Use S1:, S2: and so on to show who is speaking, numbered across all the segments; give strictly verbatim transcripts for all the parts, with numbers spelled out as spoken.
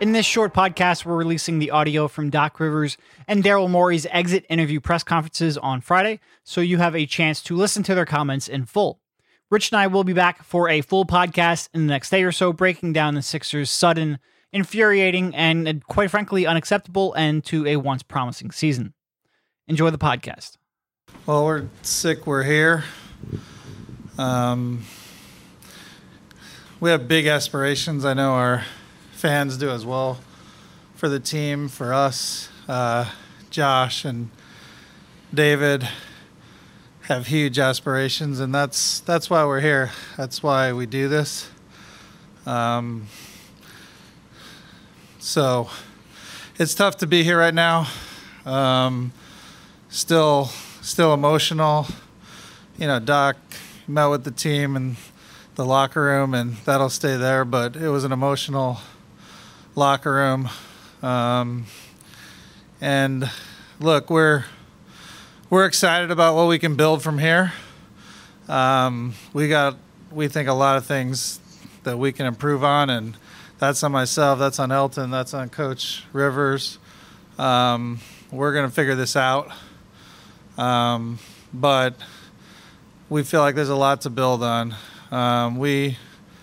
S1: In this short podcast, we're releasing the audio from Doc Rivers and Daryl Morey's exit interview press conferences on Friday, so you have a chance to listen to their comments in full. Rich and I will be back for a full podcast in the next day or so, breaking down the Sixers' sudden, infuriating, and quite frankly, unacceptable end to a once promising season. Enjoy the podcast.
S2: Well, we're sick. We're here. Um, we have big aspirations. I know our fans do as well for the team, for us. Uh, Josh and David have huge aspirations, and that's that's why we're here. That's why we do this. Um, so it's tough to be here right now. Um, still, still emotional. You know, Doc met with the team in the locker room, and that'll stay there. But it was an emotional locker room. Um, and look, we're we're excited about what we can build from here. Um, we got, we think a lot of things that we can improve on, and that's on myself, that's on Elton, that's on Coach Rivers. Um, we're going to figure this out. Um, but we feel like there's a lot to build on. Um, we,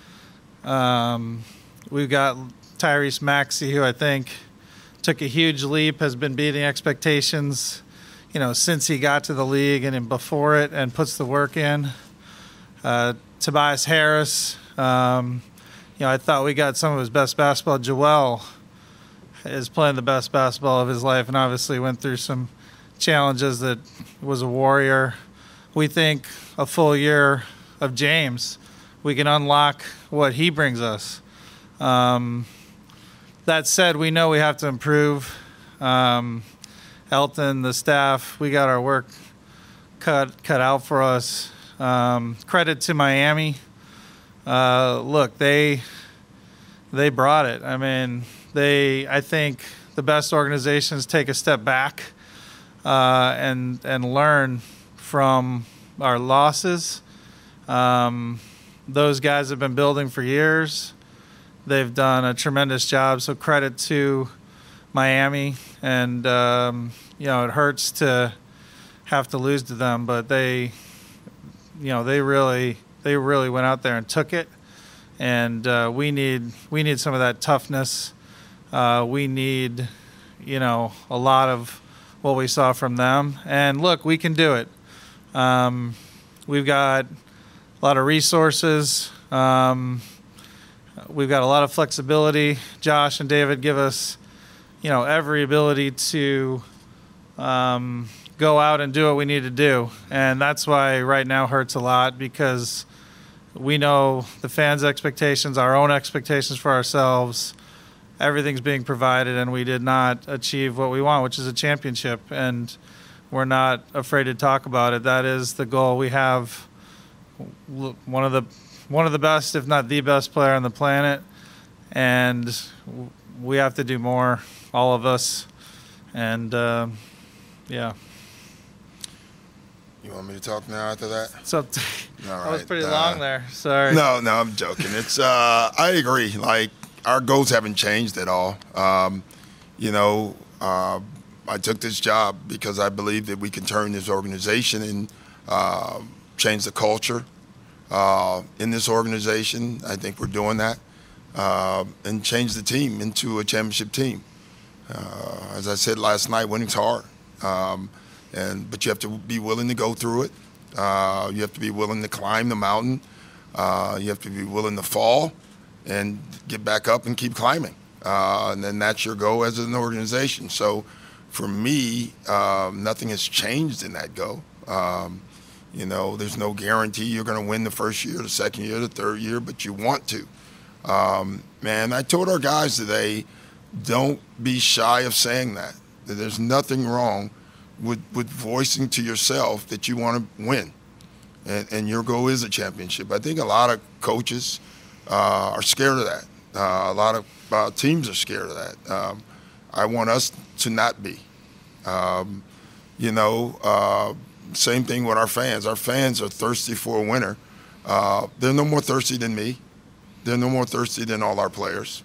S2: um, we've got Tyrese Maxey, who I think took a huge leap, has been beating expectations, you know, since he got to the league and before it, and puts the work in. Uh, Tobias Harris, um, you know, I thought we got some of his best basketball. Joel is playing the best basketball of his life, and obviously went through some challenges that was a warrior. We think a full year of James, we can unlock what he brings us. Um, that said, we know we have to improve. Um, Elton, the staff, we got our work cut cut out for us. Um, credit to Miami. Uh, look, they they brought it. I mean, they. I think the best organizations take a step back uh, and and learn from our losses. Um, those guys have been building for years. They've done a tremendous job. So credit to Miami, and um, you know, it hurts to have to lose to them, but they, you know, they really they really went out there and took it, and uh, we need we need some of that toughness. Uh, we need, you know, a lot of what we saw from them, and look, we can do it. Um, we've got a lot of resources. Um, we've got a lot of flexibility. Josh and David give us, you know, every ability to um, go out and do what we need to do. And that's why right now hurts a lot, because we know the fans' expectations, our own expectations for ourselves, everything's being provided, and we did not achieve what we want, which is a championship. And we're not afraid to talk about it. That is the goal. We have one of the one of the best, if not the best player on the planet, and we have to do more, all of us. And uh, yeah.
S3: You want me to talk now after that?
S2: So
S3: All right.
S2: that was pretty
S3: uh,
S2: long there. Sorry.
S3: No, no, I'm joking. It's uh, I agree. Like, our goals haven't changed at all. Um, you know, uh, I took this job because I believe that we can turn this organization and uh, change the culture uh, in this organization. I think we're doing that, uh, and change the team into a championship team. Uh, as I said last night, winning's hard, um, and but you have to be willing to go through it. Uh, you have to be willing to climb the mountain. Uh, you have to be willing to fall and get back up and keep climbing. Uh, and then that's your goal as an organization. So for me, um, nothing has changed in that goal. Um, you know, there's no guarantee you're going to win the first year, the second year, the third year, but you want to. Um, man, I told our guys today, don't be shy of saying that. That there's nothing wrong with, with voicing to yourself that you want to win. And, and your goal is a championship. I think a lot of coaches uh, are scared of that. Uh, a lot of uh, teams are scared of that. Um, I want us to not be. Um, you know, uh, same thing with our fans. Our fans are thirsty for a winner. Uh, they're no more thirsty than me. They're no more thirsty than all our players.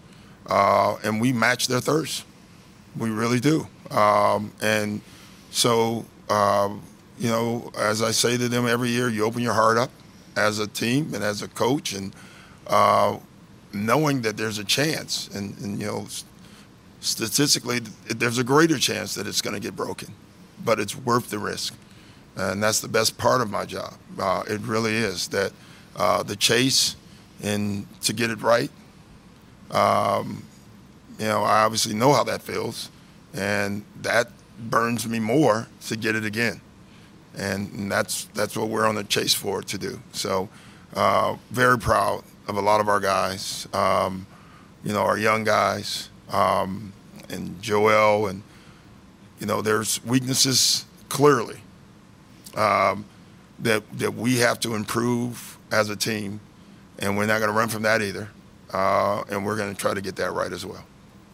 S3: uh, and we match their thirst. We really do. Um, and so, uh, you know, as I say to them every year, you open your heart up as a team and as a coach, and uh, knowing that there's a chance, and, and you know, statistically, there's a greater chance that it's going to get broken, but it's worth the risk. And that's the best part of my job. Uh, it really is, that uh, the chase and to get it right. Um, you know, I obviously know how that feels, and that burns me more to get it again. And, and that's that's what we're on the chase for to do. So uh, very proud of a lot of our guys, um, you know, our young guys, um, and Joel, and, you know, there's weaknesses clearly um, that that we have to improve as a team, and we're not going to run from that either. Uh, and we're going to try to get that right as well.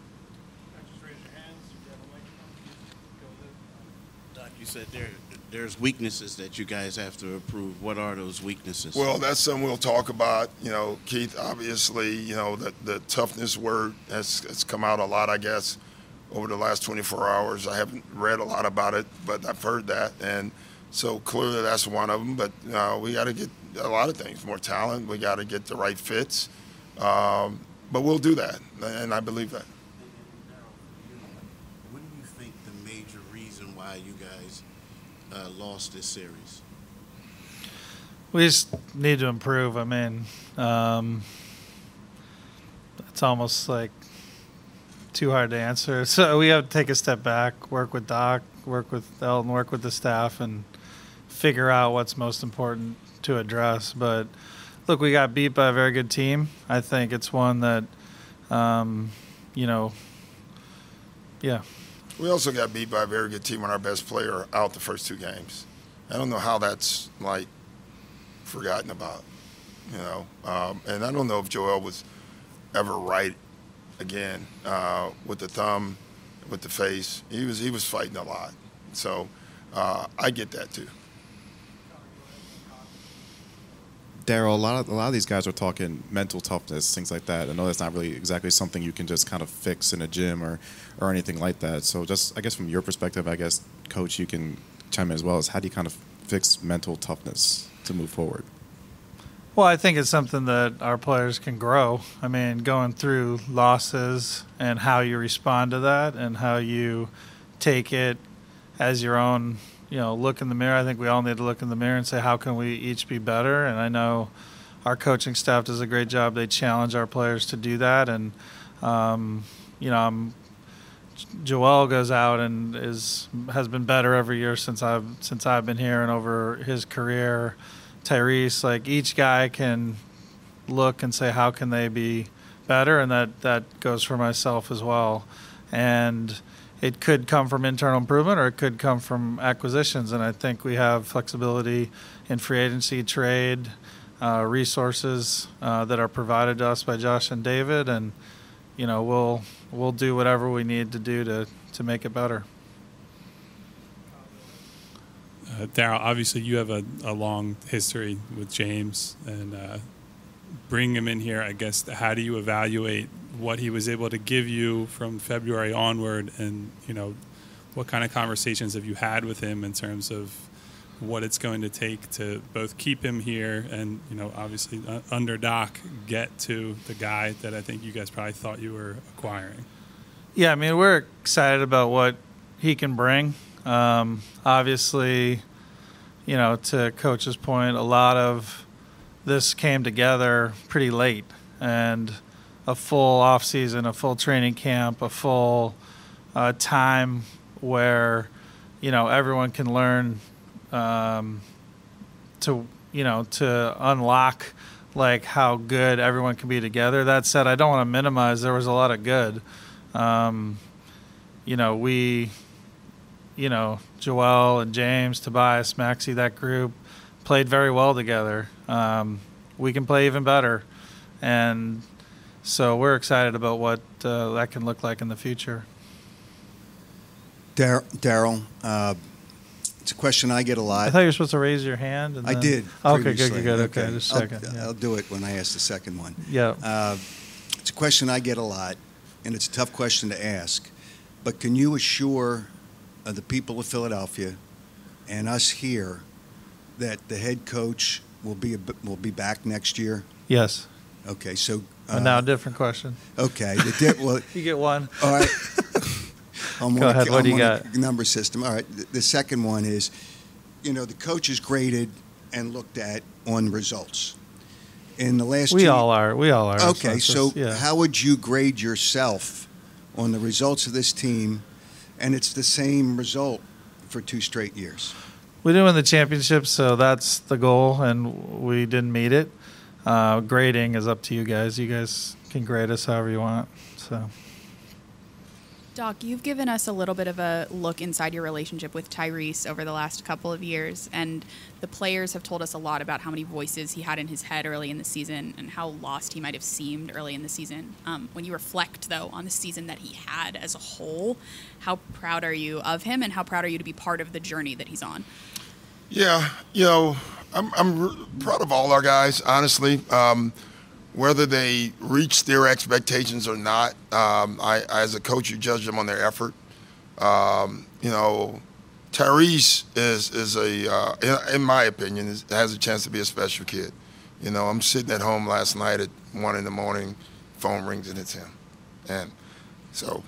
S4: Doc, you said there there's weaknesses that you guys have to improve. What are those weaknesses?
S3: Well, that's something we'll talk about. You know, Keith, obviously, you know, the, the toughness word has, has come out a lot, I guess, over the last twenty-four hours. I haven't read a lot about it, but I've heard that. And so clearly that's one of them. But uh, we got to get a lot of things, more talent. We got to get the right fits. Um, but we'll do that, and I believe that.
S4: What do you think the major reason why you guys uh, lost this series?
S2: We just need to improve. I mean, um, it's almost like too hard to answer. So we have to take a step back, work with Doc, work with Elton, work with the staff, and figure out what's most important to address. But look, we got beat by a very good team. I think it's one that, um, you know, yeah.
S3: We also got beat by a very good team when our best player out the first two games. I don't know how that's, like, forgotten about, you know. Um, and I don't know if Joel was ever right again uh, with the thumb, with the face. He was he was fighting a lot. So uh, I get that too.
S5: Daryl, a lot of a lot of these guys are talking mental toughness, things like that. I know that's not really exactly something you can just kind of fix in a gym or, or anything like that. So just, I guess from your perspective, I guess, Coach, you can chime in as well, as how do you kind of fix mental toughness to move forward?
S2: Well, I think it's something that our players can grow. I mean, going through losses and how you respond to that and how you take it as your own, you know, look in the mirror. I think we all need to look in the mirror and say, how can we each be better? And I know our coaching staff does a great job. They challenge our players to do that. And, um, you know, I'm, Joel goes out and is has been better every year since I've since I've been here and over his career. Tyrese, like, each guy can look and say, how can they be better? And that, that goes for myself as well. And it could come from internal improvement or it could come from acquisitions. And I think we have flexibility in free agency, trade, uh, resources uh, that are provided to us by Josh and David. And, you know, we'll we'll do whatever we need to do to, to make it better.
S6: Uh, Daryl, obviously you have a, a long history with James, and uh, bringing him in here, I guess, how do you evaluate what he was able to give you from February onward, and, you know, what kind of conversations have you had with him in terms of what it's going to take to both keep him here and, you know, obviously uh, under Doc, get to the guy that I think you guys probably thought you were acquiring?
S2: Yeah, I mean, we're excited about what he can bring. Um, obviously, you know, to Coach's point, a lot of this came together pretty late, and a full off season, a full training camp, a full uh, time where, you know, everyone can learn um, to, you know, to unlock like how good everyone can be together. That said, I don't want to minimize. There was a lot of good. Um, you know, we. You know, Joel and James, Tobias, Maxey, that group played very well together. Um, we can play even better. And so we're excited about what uh, that can look like in the future.
S7: Daryl, uh, it's a question I get a lot.
S2: I thought you were supposed to raise your hand. And
S7: I
S2: then...
S7: did.
S2: Okay,
S7: previously.
S2: good, good, good. Okay, just a
S7: I'll,
S2: second. Yeah.
S7: I'll do it when I ask the second one.
S2: Yeah.
S7: Uh, it's a question I get a lot. and it's a tough question to ask, but can you assure uh, the people of Philadelphia and us here that the head coach will be a, will be back next year?
S2: Yes.
S7: Okay, so uh,
S2: And now a different question.
S7: okay, the di- well,
S2: You get one.
S7: all right. I'm
S2: Go
S7: on
S2: ahead,
S7: A,
S2: what do
S7: I'm
S2: you
S7: on
S2: got?
S7: A number system. All right. The, the second one is, you know, the coach is graded and looked at on results. In the last
S2: We
S7: two,
S2: all are. We all are.
S7: Okay,
S2: it's
S7: so
S2: just- yeah.
S7: how would you grade yourself on the results of this team? And it's the same result for two straight years.
S2: We didn't win the championship, so that's the goal, and we didn't meet it. Uh, grading is up to you guys. You guys can grade us however you want. So.
S8: Doc, you've given us a little bit of a look inside your relationship with Tyrese over the last couple of years, and the players have told us a lot about how many voices he had in his head early in the season and how lost he might have seemed early in the season. Um, when you reflect, though, on the season that he had as a whole, how proud are you of him, and how proud are you to be part of the journey that he's on?
S3: Yeah, you know, I'm I'm r- proud of all our guys, honestly. Um, whether they reach their expectations or not, um, I, as a coach, you judge them on their effort. Um, you know, Tyrese is is a, uh, in, in my opinion, is, has a chance to be a special kid. You know, I'm sitting at home last night at one in the morning, phone rings and it's him, and so.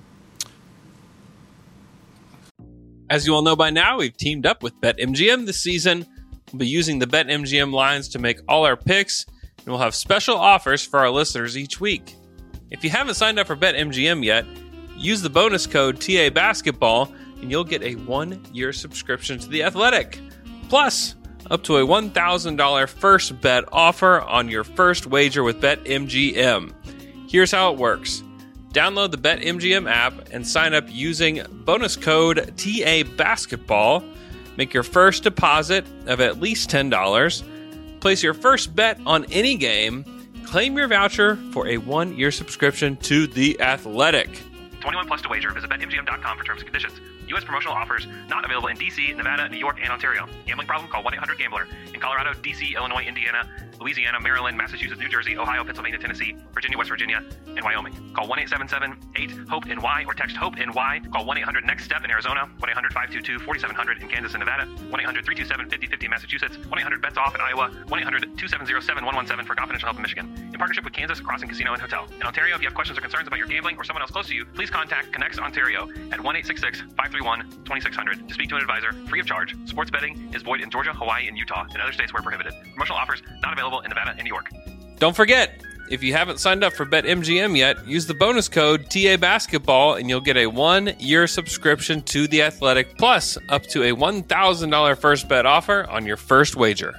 S9: As you all know by now, we've teamed up with BetMGM this season. We'll be using the BetMGM lines to make all our picks, and we'll have special offers for our listeners each week. If you haven't signed up for BetMGM yet, use the bonus code T A Basketball, and you'll get a one-year subscription to The Athletic. Plus, up to a one thousand dollars first bet offer on your first wager with BetMGM. Here's how it works. Download the BetMGM app and sign up using bonus code T A Basketball. Make your first deposit of at least ten dollars. Place your first bet on any game. Claim your voucher for a one-year subscription to The Athletic.
S10: twenty-one plus to wager. Visit Bet M G M dot com for terms and conditions. U S promotional offers not available in D C, Nevada, New York, and Ontario. Gambling problem? Call one eight hundred gambler. In Colorado, D C, Illinois, Indiana, Louisiana, Maryland, Massachusetts, New Jersey, Ohio, Pennsylvania, Tennessee, Virginia, West Virginia, and Wyoming. Call one eight seven seven eight hope N Y or text HOPE-NY. Call one eight hundred next step in Arizona, one eight hundred five two two four seven zero zero in Kansas and Nevada, one eight hundred three two seven five zero five zero in Massachusetts, one eight hundred bets off in Iowa, one eight hundred two seven zero seven one one seven for confidential help in Michigan. In partnership with Kansas Crossing Casino and Hotel. In Ontario, if you have questions or concerns about your gambling or someone else close to you, please contact Connects Ontario at one eight six six five three one two six zero zero to speak to an advisor free of charge. Sports betting is void in Georgia, Hawaii, and Utah, and other states where prohibited. Promotional offers not available in Nevada and New York.
S9: Don't forget, if you haven't signed up for BetMGM yet, use the bonus code T A Basketball and you'll get a one-year subscription to The Athletic, plus up to a one thousand dollars first bet offer on your first wager.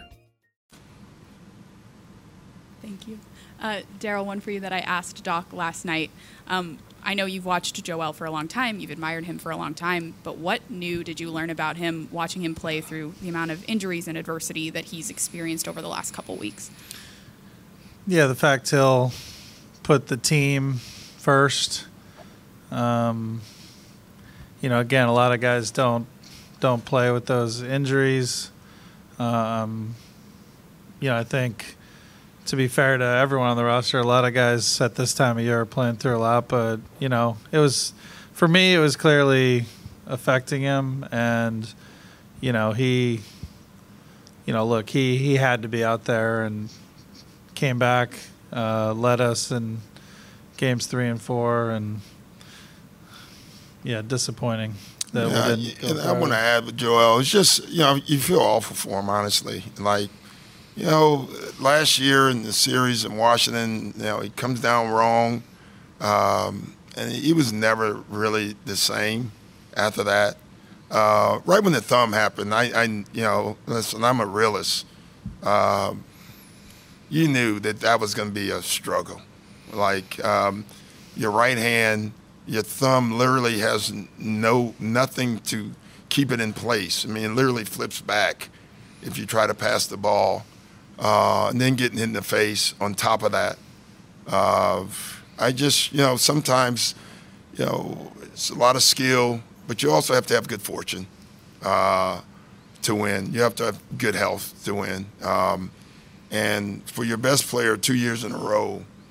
S8: Thank you. Uh, Daryl, one for you that I asked Doc last night. Um, I know you've watched Joel for a long time. You've admired him for a long time. But what new did you learn about him watching him play through the amount of injuries and adversity that he's experienced over the last couple weeks?
S2: Yeah, the fact he'll put the team first. Um, you know, again, a lot of guys don't don't play with those injuries. Um, you know, I think to be fair to everyone on the roster, a lot of guys at this time of year are playing through a lot. But you know, it was for me, it was clearly affecting him, and you know, he, you know, look, he he had to be out there and came back, uh, led us in games three and four, and yeah, disappointing that
S3: Yeah,
S2: we didn't.
S3: and
S2: go
S3: I want to add with Joel. It's just, you know, you feel awful for him, honestly. Like, you know, last year in the series in Washington, you know, he comes down wrong, um, and he was never really the same after that. Uh, right when the thumb happened, I, I, you know, listen, I'm a realist. Um, you knew that that was going to be a struggle. Like, um, your right hand, your thumb literally has no nothing to keep it in place. I mean, it literally flips back if you try to pass the ball, uh, and then getting hit in the face on top of that. Uh, I just, you know, sometimes, you know, it's a lot of skill, but you also have to have good fortune uh, to win. You have to have good health to win. Um, and for your best player two years in a row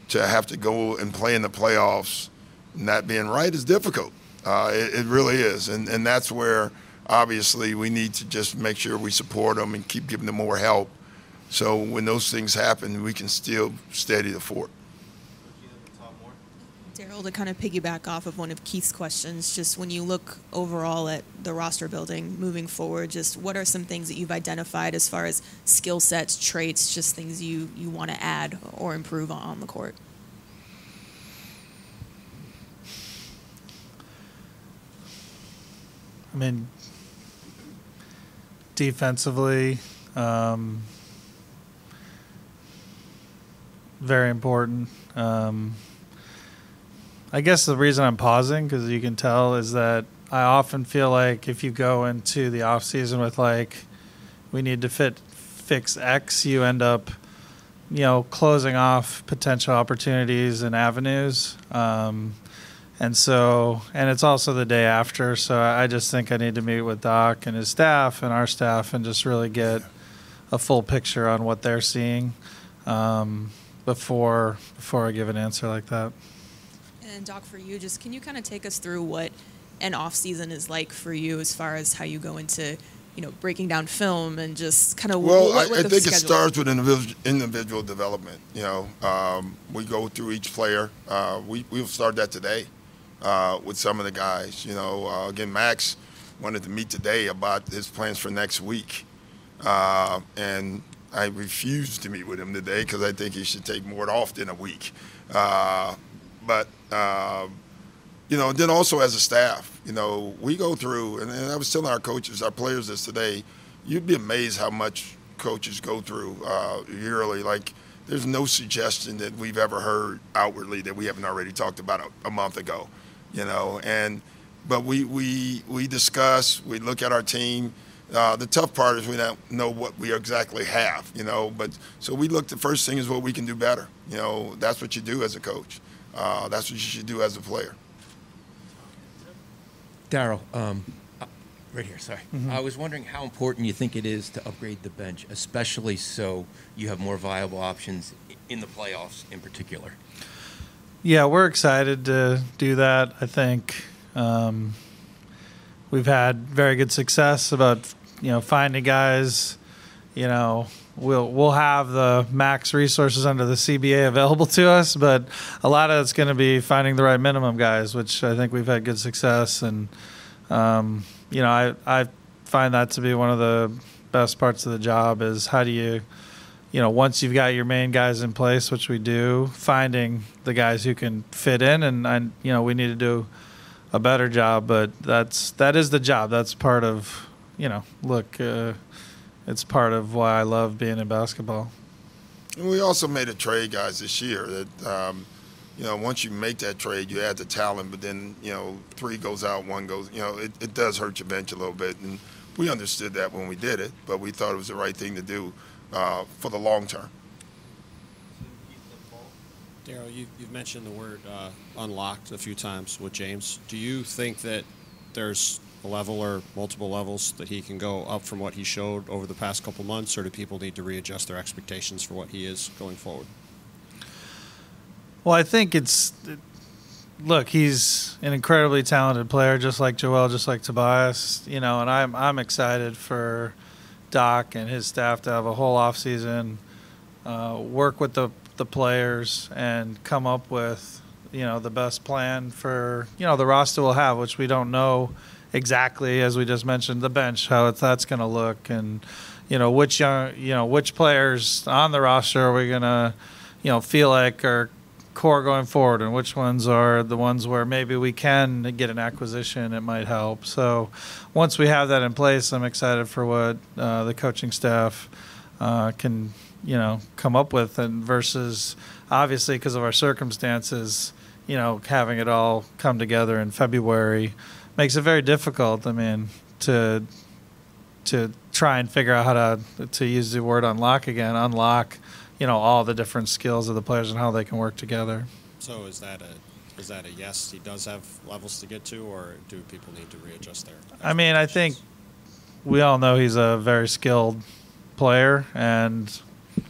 S3: to have to go and play in the playoffs, not being right is difficult. Uh, it, it really is, and and that's where obviously we need to just make sure we support them and keep giving them more help. So when those things happen, we can still steady the fort.
S11: Daryl, to kind of piggyback off of one of Keith's questions, just when you look overall at the roster building moving forward, just what are some things that you've identified as far as skill sets, traits, just things you, you want to add or improve on, on the court?
S2: I mean, defensively, um, very important. Um, I guess the reason I'm pausing, because you can tell, is that I often feel like if you go into the off season with like, we need to fit fix X, you end up, you know, closing off potential opportunities and avenues. Um, and so, and it's also the day after, so I just think I need to meet with Doc and his staff and our staff and just really get a full picture on what they're seeing um, before before I give an answer like that.
S11: And Doc, for you, just can you kind of take us through what an off season is like for you, as far as how you go into, you know, breaking down film and just kind of
S3: well,
S11: what, what
S3: I, I
S11: the
S3: think
S11: schedule
S3: it starts with individual, individual development. You know, um, we go through each player. Uh, we we'll start that today uh, with some of the guys. You know, uh, again, Max wanted to meet today about his plans for next week, uh, and I refused to meet with him today because I think he should take more off than a week. Uh, But, uh, you know, then also as a staff, you know, we go through, and, and I was telling our coaches, our players this today, you'd be amazed how much coaches go through uh, yearly. Like, there's no suggestion that we've ever heard outwardly that we haven't already talked about a, a month ago, you know. And but we, we, we discuss, we look at our team. Uh, the tough part is we don't know what we exactly have, you know. But so we look, the first thing is what we can do better. You know, that's what you do as a coach. Uh, that's what you should do as a player.
S12: Daryl, um, uh, right here, sorry.
S2: Mm-hmm.
S12: I was wondering how important you think it is to upgrade the bench, especially so you have more viable options in the playoffs in particular.
S2: Yeah, we're excited to do that. I think um, we've had very good success about, you know, finding guys. You know, we'll we'll have the max resources under the C B A available to us, but a lot of it's going to be finding the right minimum guys, which I think we've had good success. And um, you know, I I find that to be one of the best parts of the job is how do you, you know, once you've got your main guys in place, which we do, finding the guys who can fit in. And I, you know, we need to do a better job, but that's that is the job. That's part of, you know, look. Uh, It's part of why I love being in basketball.
S3: And we also made a trade, guys, this year that, um, you know, once you make that trade, you add the talent, but then, you know, three goes out, one goes, you know, it, it does hurt your bench a little bit. And we understood that when we did it, but we thought it was the right thing to do uh, for the long term.
S13: Daryl, you, you've mentioned the word uh, unlocked a few times with James. Do you think that there's a level or multiple levels that he can go up from what he showed over the past couple months, or do people need to readjust their expectations for what he is going forward?
S2: Well, I think it's look, he's an incredibly talented player, just like Joel, just like Tobias, you know, and I'm I'm excited for Doc and his staff to have a whole off season, uh, work with the the players and come up with, you know, the best plan for, you know, the roster will have, which we don't know exactly, as we just mentioned, the bench, how it's, that's going to look, and you know which young, you know which players on the roster are we going to, you know, feel like are core going forward, and which ones are the ones where maybe we can get an acquisition, it might help. So once we have that in place, I'm excited for what uh, the coaching staff uh, can, you know, come up with, and versus obviously because of our circumstances, you know, having it all come together in February makes it very difficult. I mean, to to try and figure out how to to use the word unlock again, unlock, you know, all the different skills of the players and how they can work together.
S13: So is that a is that a yes? He does have levels to get to, or do people need to readjust their?
S2: I mean, I think we all know he's a very skilled player, and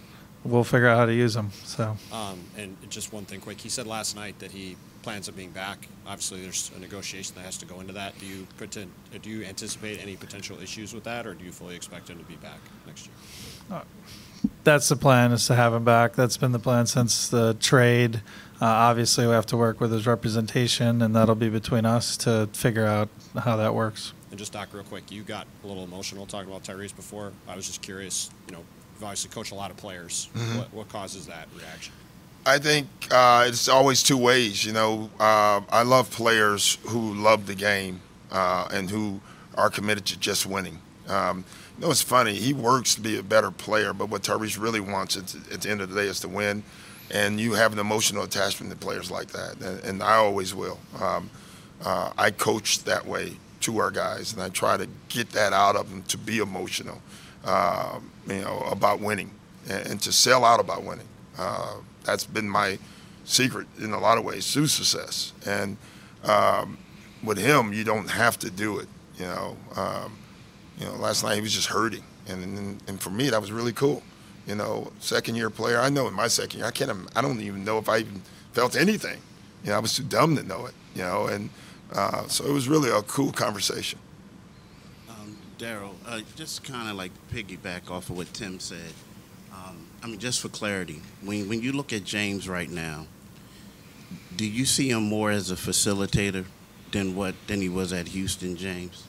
S2: we'll figure out how to use them. So.
S13: Um, and just one thing quick. He said last night that he plans on being back. Obviously, there's a negotiation that has to go into that. Do you pretend, do you anticipate any potential issues with that, or do you fully expect him to be back next year?
S2: Uh, that's the plan, is to have him back. That's been the plan since the trade. Uh, obviously, we have to work with his representation, and that'll be between us to figure out how that works.
S13: And just, Doc, real quick, you got a little emotional talking about Tyrese before. I was just curious, you know, you've obviously coached a lot of players.
S3: Mm-hmm.
S13: What, what causes that reaction?
S3: I think uh, it's always two ways. You know, uh, I love players who love the game uh, and who are committed to just winning. Um, you know, it's funny. He works to be a better player, but what Tyrese really wants at, at the end of the day is to win. And you have an emotional attachment to players like that, and, and I always will. Um, uh, I coach that way to our guys, and I try to get that out of them, to be emotional, uh, you know, about winning, and, and to sell out about winning. Uh, that's been my secret in a lot of ways to success. And um, with him, you don't have to do it. You know, um, you know, last night he was just hurting, and, and and for me that was really cool. You know, second year player. I know in my second year, I can't. I don't even know if I even felt anything. You know, I was too dumb to know it. You know, and uh, so it was really a cool conversation.
S4: Um, Daryl, uh, just kind of like piggyback off of what Tim said. Um, I mean, just for clarity, when when you look at James right now, do you see him more as a facilitator than what than he was at Houston, James?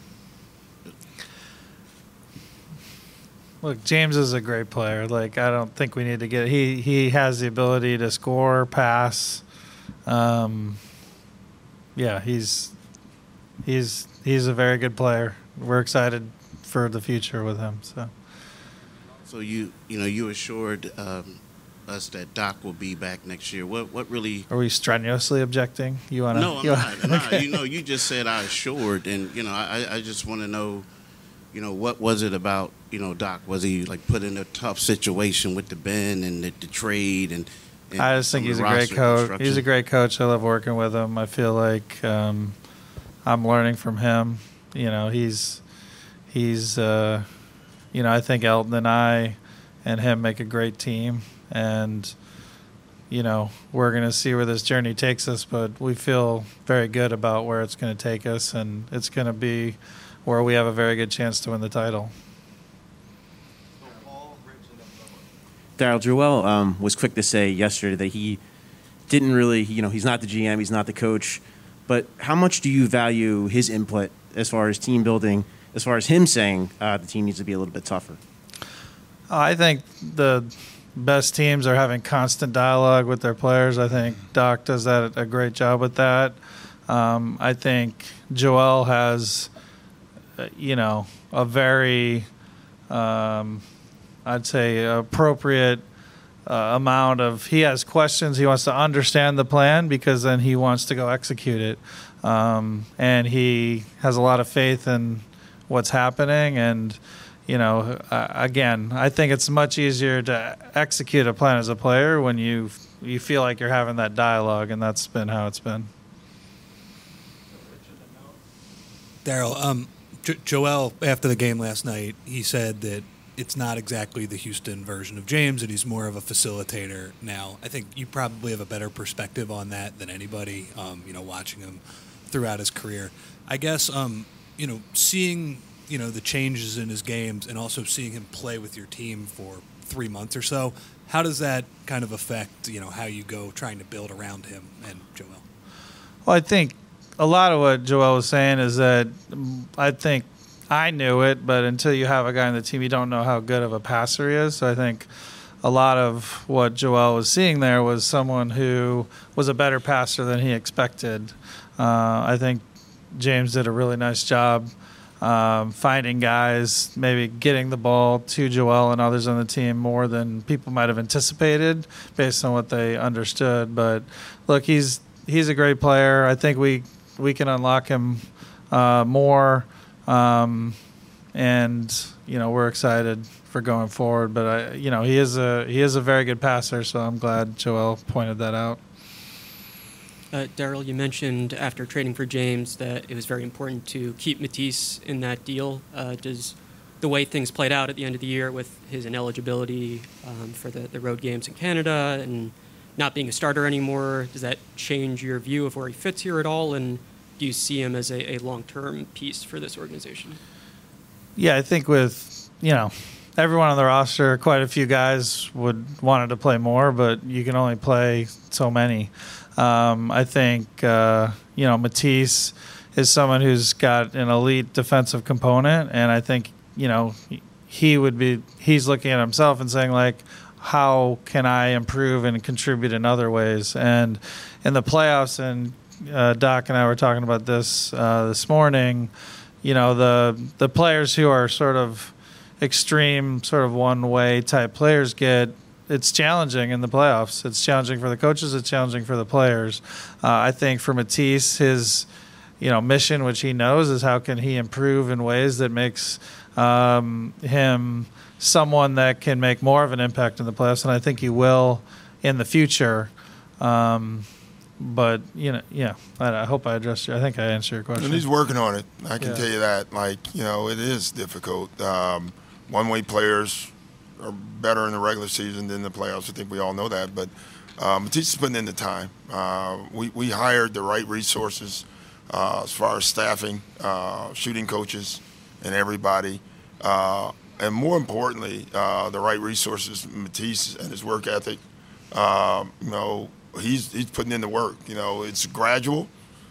S2: Look, James is a great player. Like, I don't think we need to get. He he has the ability to score, pass. Um, yeah, he's he's he's a very good player. We're excited for the future with him. So.
S4: So you you know you assured um, us that Doc will be back next year. What what really?
S2: Are we strenuously objecting? You want to?
S4: No, I'm not. I'm not. You know, you just said I assured, and you know, I I just want to know. You know, what was it about, you know, Doc? Was he, like, put in a tough situation with the Ben and the, the trade? and, and
S2: I just think he's a great coach. He's a great coach. I love working with him. I feel like um, I'm learning from him. You know, he's, he's uh, you know, I think Elton and I and him make a great team. And, you know, we're going to see where this journey takes us, but we feel very good about where it's going to take us, and it's going to be where we have a very good chance to win the title.
S14: Daryl, Joel um, was quick to say yesterday that he didn't really, you know, he's not the G M, he's not the coach, but how much do you value his input as far as team building, as far as him saying uh, the team needs to be a little bit tougher?
S2: I think the best teams are having constant dialogue with their players. I think Doc does that a great job with that. Um, I think Joel has... you know, a very, um, I'd say, appropriate uh, amount of, he has questions. He wants to understand the plan because then he wants to go execute it. Um, and he has a lot of faith in what's happening. And, you know, uh, again, I think it's much easier to execute a plan as a player when you you feel like you're having that dialogue, and that's been how it's been.
S15: Daryl, um, Joel, after the game last night, he said that it's not exactly the Houston version of James, and he's more of a facilitator now. I think you probably have a better perspective on that than anybody, um, you know, watching him throughout his career. I guess, um, you know, seeing, you know, the changes in his games and also seeing him play with your team for three months or so, how does that kind of affect, you know, how you go trying to build around him and Joel?
S2: Well, I think a lot of what Joel was saying is that I think I knew it, but until you have a guy on the team, you don't know how good of a passer he is. So I think a lot of what Joel was seeing there was someone who was a better passer than he expected. Uh, I think James did a really nice job um, finding guys, maybe getting the ball to Joel and others on the team more than people might have anticipated based on what they understood. But look, he's he's a great player. I think we we can unlock him uh, more, um, and you know we're excited for going forward. But I, you know, he is a he is a very good passer, so I'm glad Joel pointed that out.
S16: Uh, Daryl, you mentioned after trading for James that it was very important to keep Matisse in that deal. Uh, does the way things played out at the end of the year with his ineligibility um, for the, the road games in Canada and not being a starter anymore, does that change your view of where he fits here at all? And do you see him as a, a long-term piece for this organization?
S2: Yeah, I think with, you know, everyone on the roster, quite a few guys would wanted to play more, but you can only play so many. Um, I think, uh, you know, Matisse is someone who's got an elite defensive component, and I think, you know, he would be, he's looking at himself and saying, like, how can I improve and contribute in other ways? And in the playoffs, and uh, Doc and I were talking about this uh, this morning, you know, the the players who are sort of extreme, sort of one-way type players get, it's challenging in the playoffs. It's challenging for the coaches. It's challenging for the players. Uh, I think for Matisse, his, you know, mission, which he knows, is how can he improve in ways that makes um, him someone that can make more of an impact in the playoffs, and I think he will in the future. Um, but, you know, yeah, I, I hope I addressed you. I think I answered your question.
S3: And he's working on it. I can
S2: Yeah.
S3: tell you that. Like, you know, it is difficult. Um, one-way players are better in the regular season than the playoffs. I think we all know that. But uh, Matisse is putting in the time. Uh, we, we hired the right resources uh, as far as staffing, uh, shooting coaches, and everybody. Uh, and more importantly, uh, the right resources, Matisse and his work ethic. Uh, you know, he's he's putting in the work. You know, it's gradual.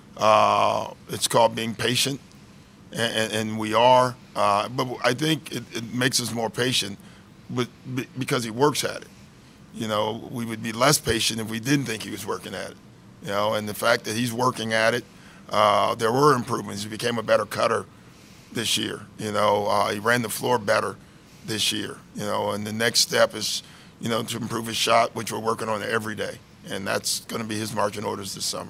S3: Uh, it's called being patient, and, and, and we are. Uh, but I think it, it makes us more patient, but because he works at it. You know, we would be less patient if we didn't think he was working at it. You know, and the fact that he's working at it, uh, there were improvements. He became a better cutter this year. You know, uh, he ran the floor better this year. You know, and the next step is, you know, to improve his shot, which we're working on every day, and that's going to be his marching orders this summer.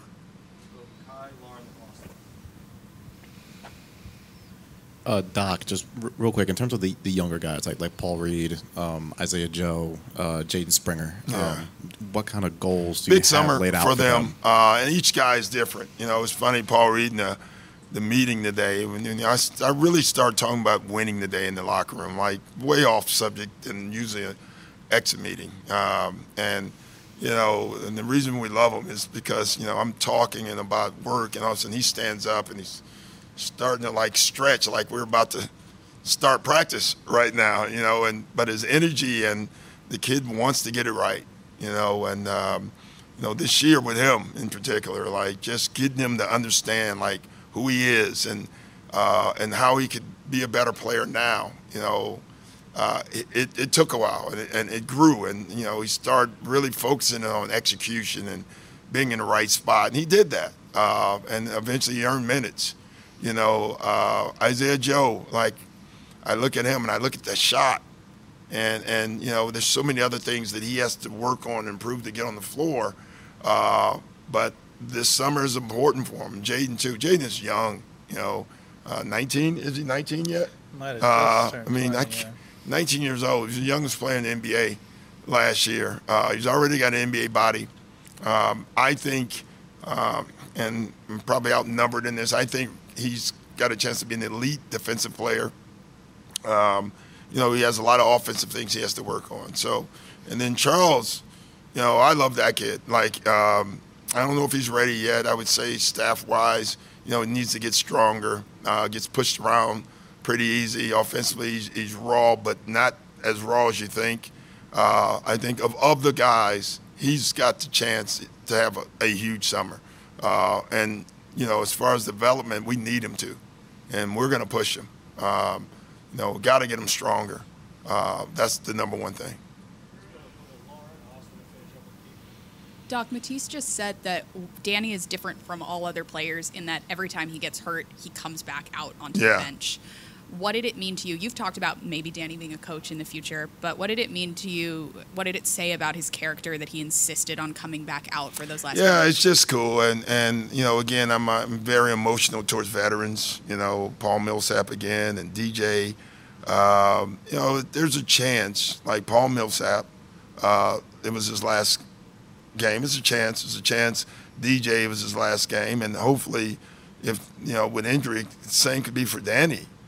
S5: Uh, Doc, just r- real quick, in terms of the, the younger guys, like like Paul Reed, um, Isaiah Joe, uh, Jaden Springer,
S3: Yeah.
S5: um, what kind of goals do
S3: Big
S5: you have
S3: summer
S5: laid out
S3: for
S5: for
S3: them,
S5: them?
S3: Uh, and each guy is different. You know, it's funny, Paul Reed in the, the meeting today, when you know, I, I really started talking about winning today in the locker room, like way off subject and usually an exit meeting. Um, and, you know, and the reason we love him is because, you know, I'm talking and about work, and all of a sudden he stands up and he's starting to like stretch like we're about to start practice right now, you know, and but his energy and the kid wants to get it right, you know, and um, you know, this year with him in particular, like just getting him to understand like who he is and uh, and how he could be a better player now, you know. Uh, it, it, it took a while and it, and it grew, and you know, he started really focusing on execution and being in the right spot, and he did that, uh, and eventually he earned minutes. You know, uh, Isaiah Joe, like, I look at him and I look at the shot, and, and you know, there's so many other things that he has to work on and improve to get on the floor. Uh, but this summer is important for him. Jaden, too. Jaden is young, you know, uh, nineteen. Is he nineteen yet?
S2: Might have
S3: Uh,
S2: just
S3: I
S2: turned
S3: mean, I,
S2: twenty,
S3: c-
S2: yeah.
S3: nineteen years old. He's the youngest player in the N B A last year. Uh, he's already got an N B A body. Um, I think, um, and I'm probably outnumbered in this, I think he's got a chance to be an elite defensive player. Um, you know, he has a lot of offensive things he has to work on. So, and then Charles, you know, I love that kid. Like, um, I don't know if he's ready yet. I would say staff-wise, you know, he needs to get stronger, uh, gets pushed around pretty easy. Offensively, he's, he's raw, but not as raw as you think. Uh, I think of, of the guys, he's got the chance to have a, a huge summer. Uh, and, you know, as far as development, we need him to. And we're going to push him. Um, you know, got to get him stronger. Uh, that's the number one thing.
S8: Doc, Matisse just said that Danny is different from all other players in that every time he gets hurt, he comes back out onto
S3: Yeah.
S8: the bench. What did it mean to you? You've talked about maybe Danny being a coach in the future, but what did it mean to you? What did it say about his character that he insisted on coming back out for those last
S3: Yeah,
S8: few
S3: it's just cool. And, and you know, again, I'm, I'm very emotional towards veterans, you know, Paul Millsap again and D J. Um, you know, there's a chance, like Paul Millsap, uh, it was his last game. It's a chance. It's a chance. D J, it was his last game. And hopefully, if, you know, with injury, the same could be for Danny.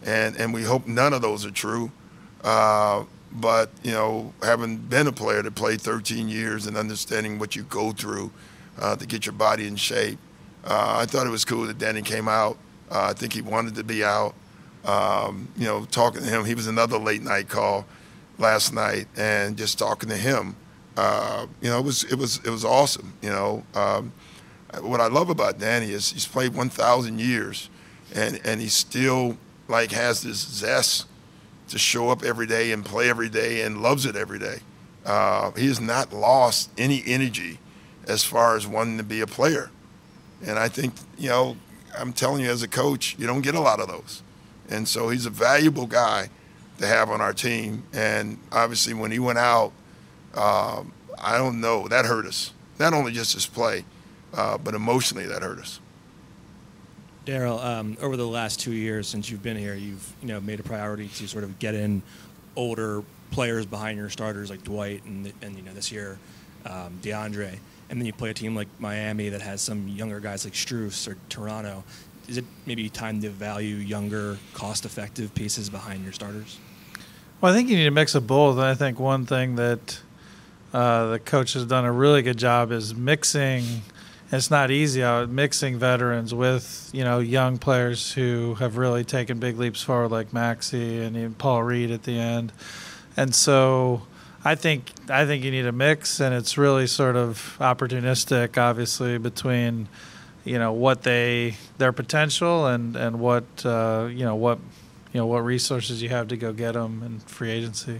S3: and and we hope none of those are true. Uh, but you know, having been a player that played thirteen years and understanding what you go through uh, to get your body in shape, uh, I thought it was cool that Danny came out. Uh, I think he wanted to be out. Um, you know, talking to him, he was another late night call last night, and just talking to him, uh, you know, it was it was it was awesome. You know, um, what I love about Danny is he's played one thousand years, and and he still like has this zest to show up every day and play every day and loves it every day. Uh, he has not lost any energy as far as wanting to be a player, and I think, you know, I'm telling you as a coach, you don't get a lot of those, and so he's a valuable guy to have on our team. And obviously when he went out, um, I don't know, that hurt us. Not only just his play, uh, but emotionally that hurt us.
S17: Daryl, um, over the last two years since you've been here, you've you know made a priority to sort of get in older players behind your starters like Dwight and, and you know this year um, DeAndre, and then you play a team like Miami that has some younger guys like Strus or Toronto. Is it maybe time to value younger, cost-effective pieces behind your starters?
S2: Well, I think you need a mix of both. I think one thing that uh, the coach has done a really good job is mixing. It's not easy out mixing veterans with, you know, young players who have really taken big leaps forward, like Maxey and even Paul Reed at the end. And so I think I think you need a mix, and it's really sort of opportunistic, obviously, between, you know, what they their potential and and what uh, you know what you know what resources you have to go get them in free agency.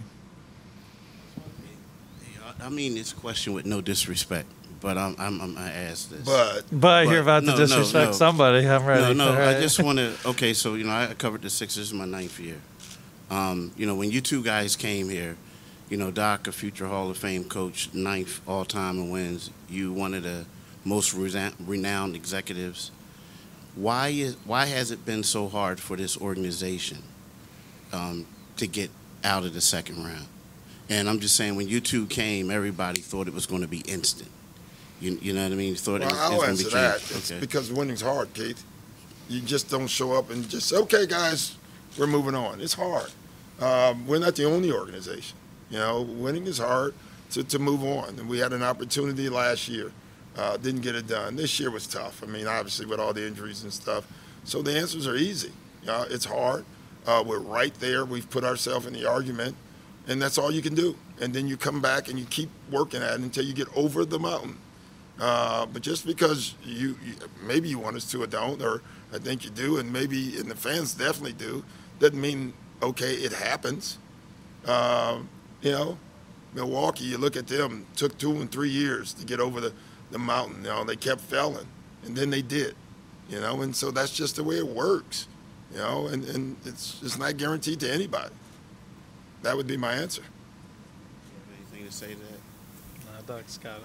S4: I mean this question with no disrespect, but I'm I'm, I'm I ask this.
S3: But
S2: but you're about
S4: no,
S2: to disrespect
S4: no, no.
S2: somebody. I'm ready.
S4: No, no.
S2: for it.
S4: I just want to. Okay, so you know I covered the Sixers in my ninth year. Um, you know when you two guys came here, you know Doc, a future Hall of Fame coach, ninth all time in wins. You one of the most renowned executives. Why is why has it been so hard for this organization um, to get out of the second round? And I'm just saying, when you two came, everybody thought it was going to be instant. You, you know what I mean? You thought
S3: Well,
S4: it was,
S3: I'll
S4: it was
S3: answer
S4: going to be
S3: that.
S4: changed.
S3: It's
S4: Okay.
S3: because winning's hard, Keith. You just don't show up and just say, okay, guys, we're moving on. It's hard. Um, we're not the only organization. You know, winning is hard to, to move on. And we had an opportunity last year. Uh, didn't get it done. This year was tough. I mean, obviously, with all the injuries and stuff. So the answers are easy. Uh, it's hard. Uh, we're right there. We've put ourselves in the argument, and that's all you can do. And then you come back and you keep working at it until you get over the mountain. Uh, but just because you, you maybe you want us to or don't, or I think you do, and maybe and the fans definitely do, doesn't mean, okay, it happens. Uh, you know, Milwaukee, you look at them, took two and three years to get over the, the mountain. You know, they kept failing, and then they did. You know, and so that's just the way it works. You know, and, and it's it's not guaranteed to anybody. That would be my answer.
S4: Anything to say to that?
S2: No, Doc's got it.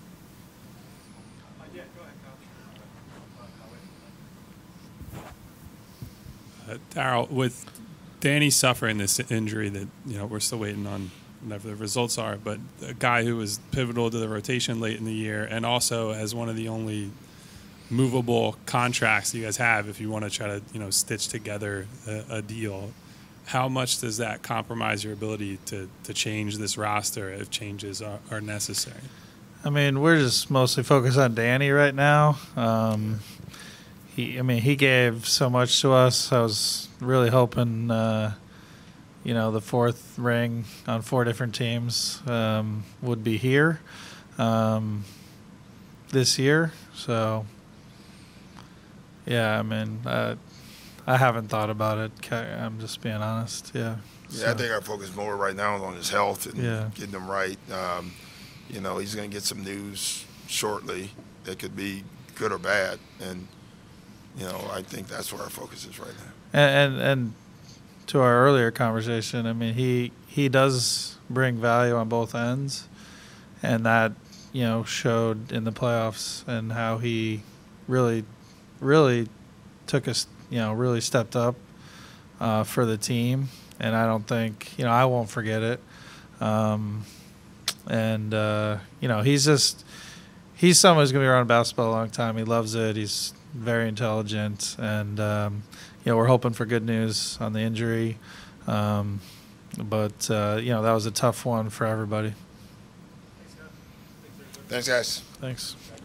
S6: Uh, Daryl, with Danny suffering this injury that, you know, we're still waiting on whatever the results are, but a guy who was pivotal to the rotation late in the year, and also as one of the only movable contracts you guys have if you want to try to, you know, stitch together a, a deal, how much does that compromise your ability to, to change this roster if changes are, are necessary?
S2: I mean, we're just mostly focused on Danny right now. Um, he, I mean, he gave so much to us. I was really hoping, uh, you know, the fourth ring on four different teams um, would be here um, this year. So, yeah, I mean, uh, I haven't thought about it. I'm just being honest. Yeah.
S3: Yeah,
S2: So-
S3: I think our focus more right now is on his health and
S2: Yeah.
S3: getting him right. Um, you know, he's going to get some news shortly that could be good or bad, and you know, I think that's where our focus is right now.
S2: And, and and to our earlier conversation, I mean, he he does bring value on both ends, and that, you know, showed in the playoffs and how he really, really took us, you know, really stepped up uh, for the team. And I don't think, you know, I won't forget it. Um, and uh, you know, he's just he's someone who's gonna be around basketball a long time. He loves it. He's very intelligent, and um, you know, we're hoping for good news on the injury. Um, but uh, you know, that was a tough one for everybody.
S3: Thanks, guys.
S2: Thanks.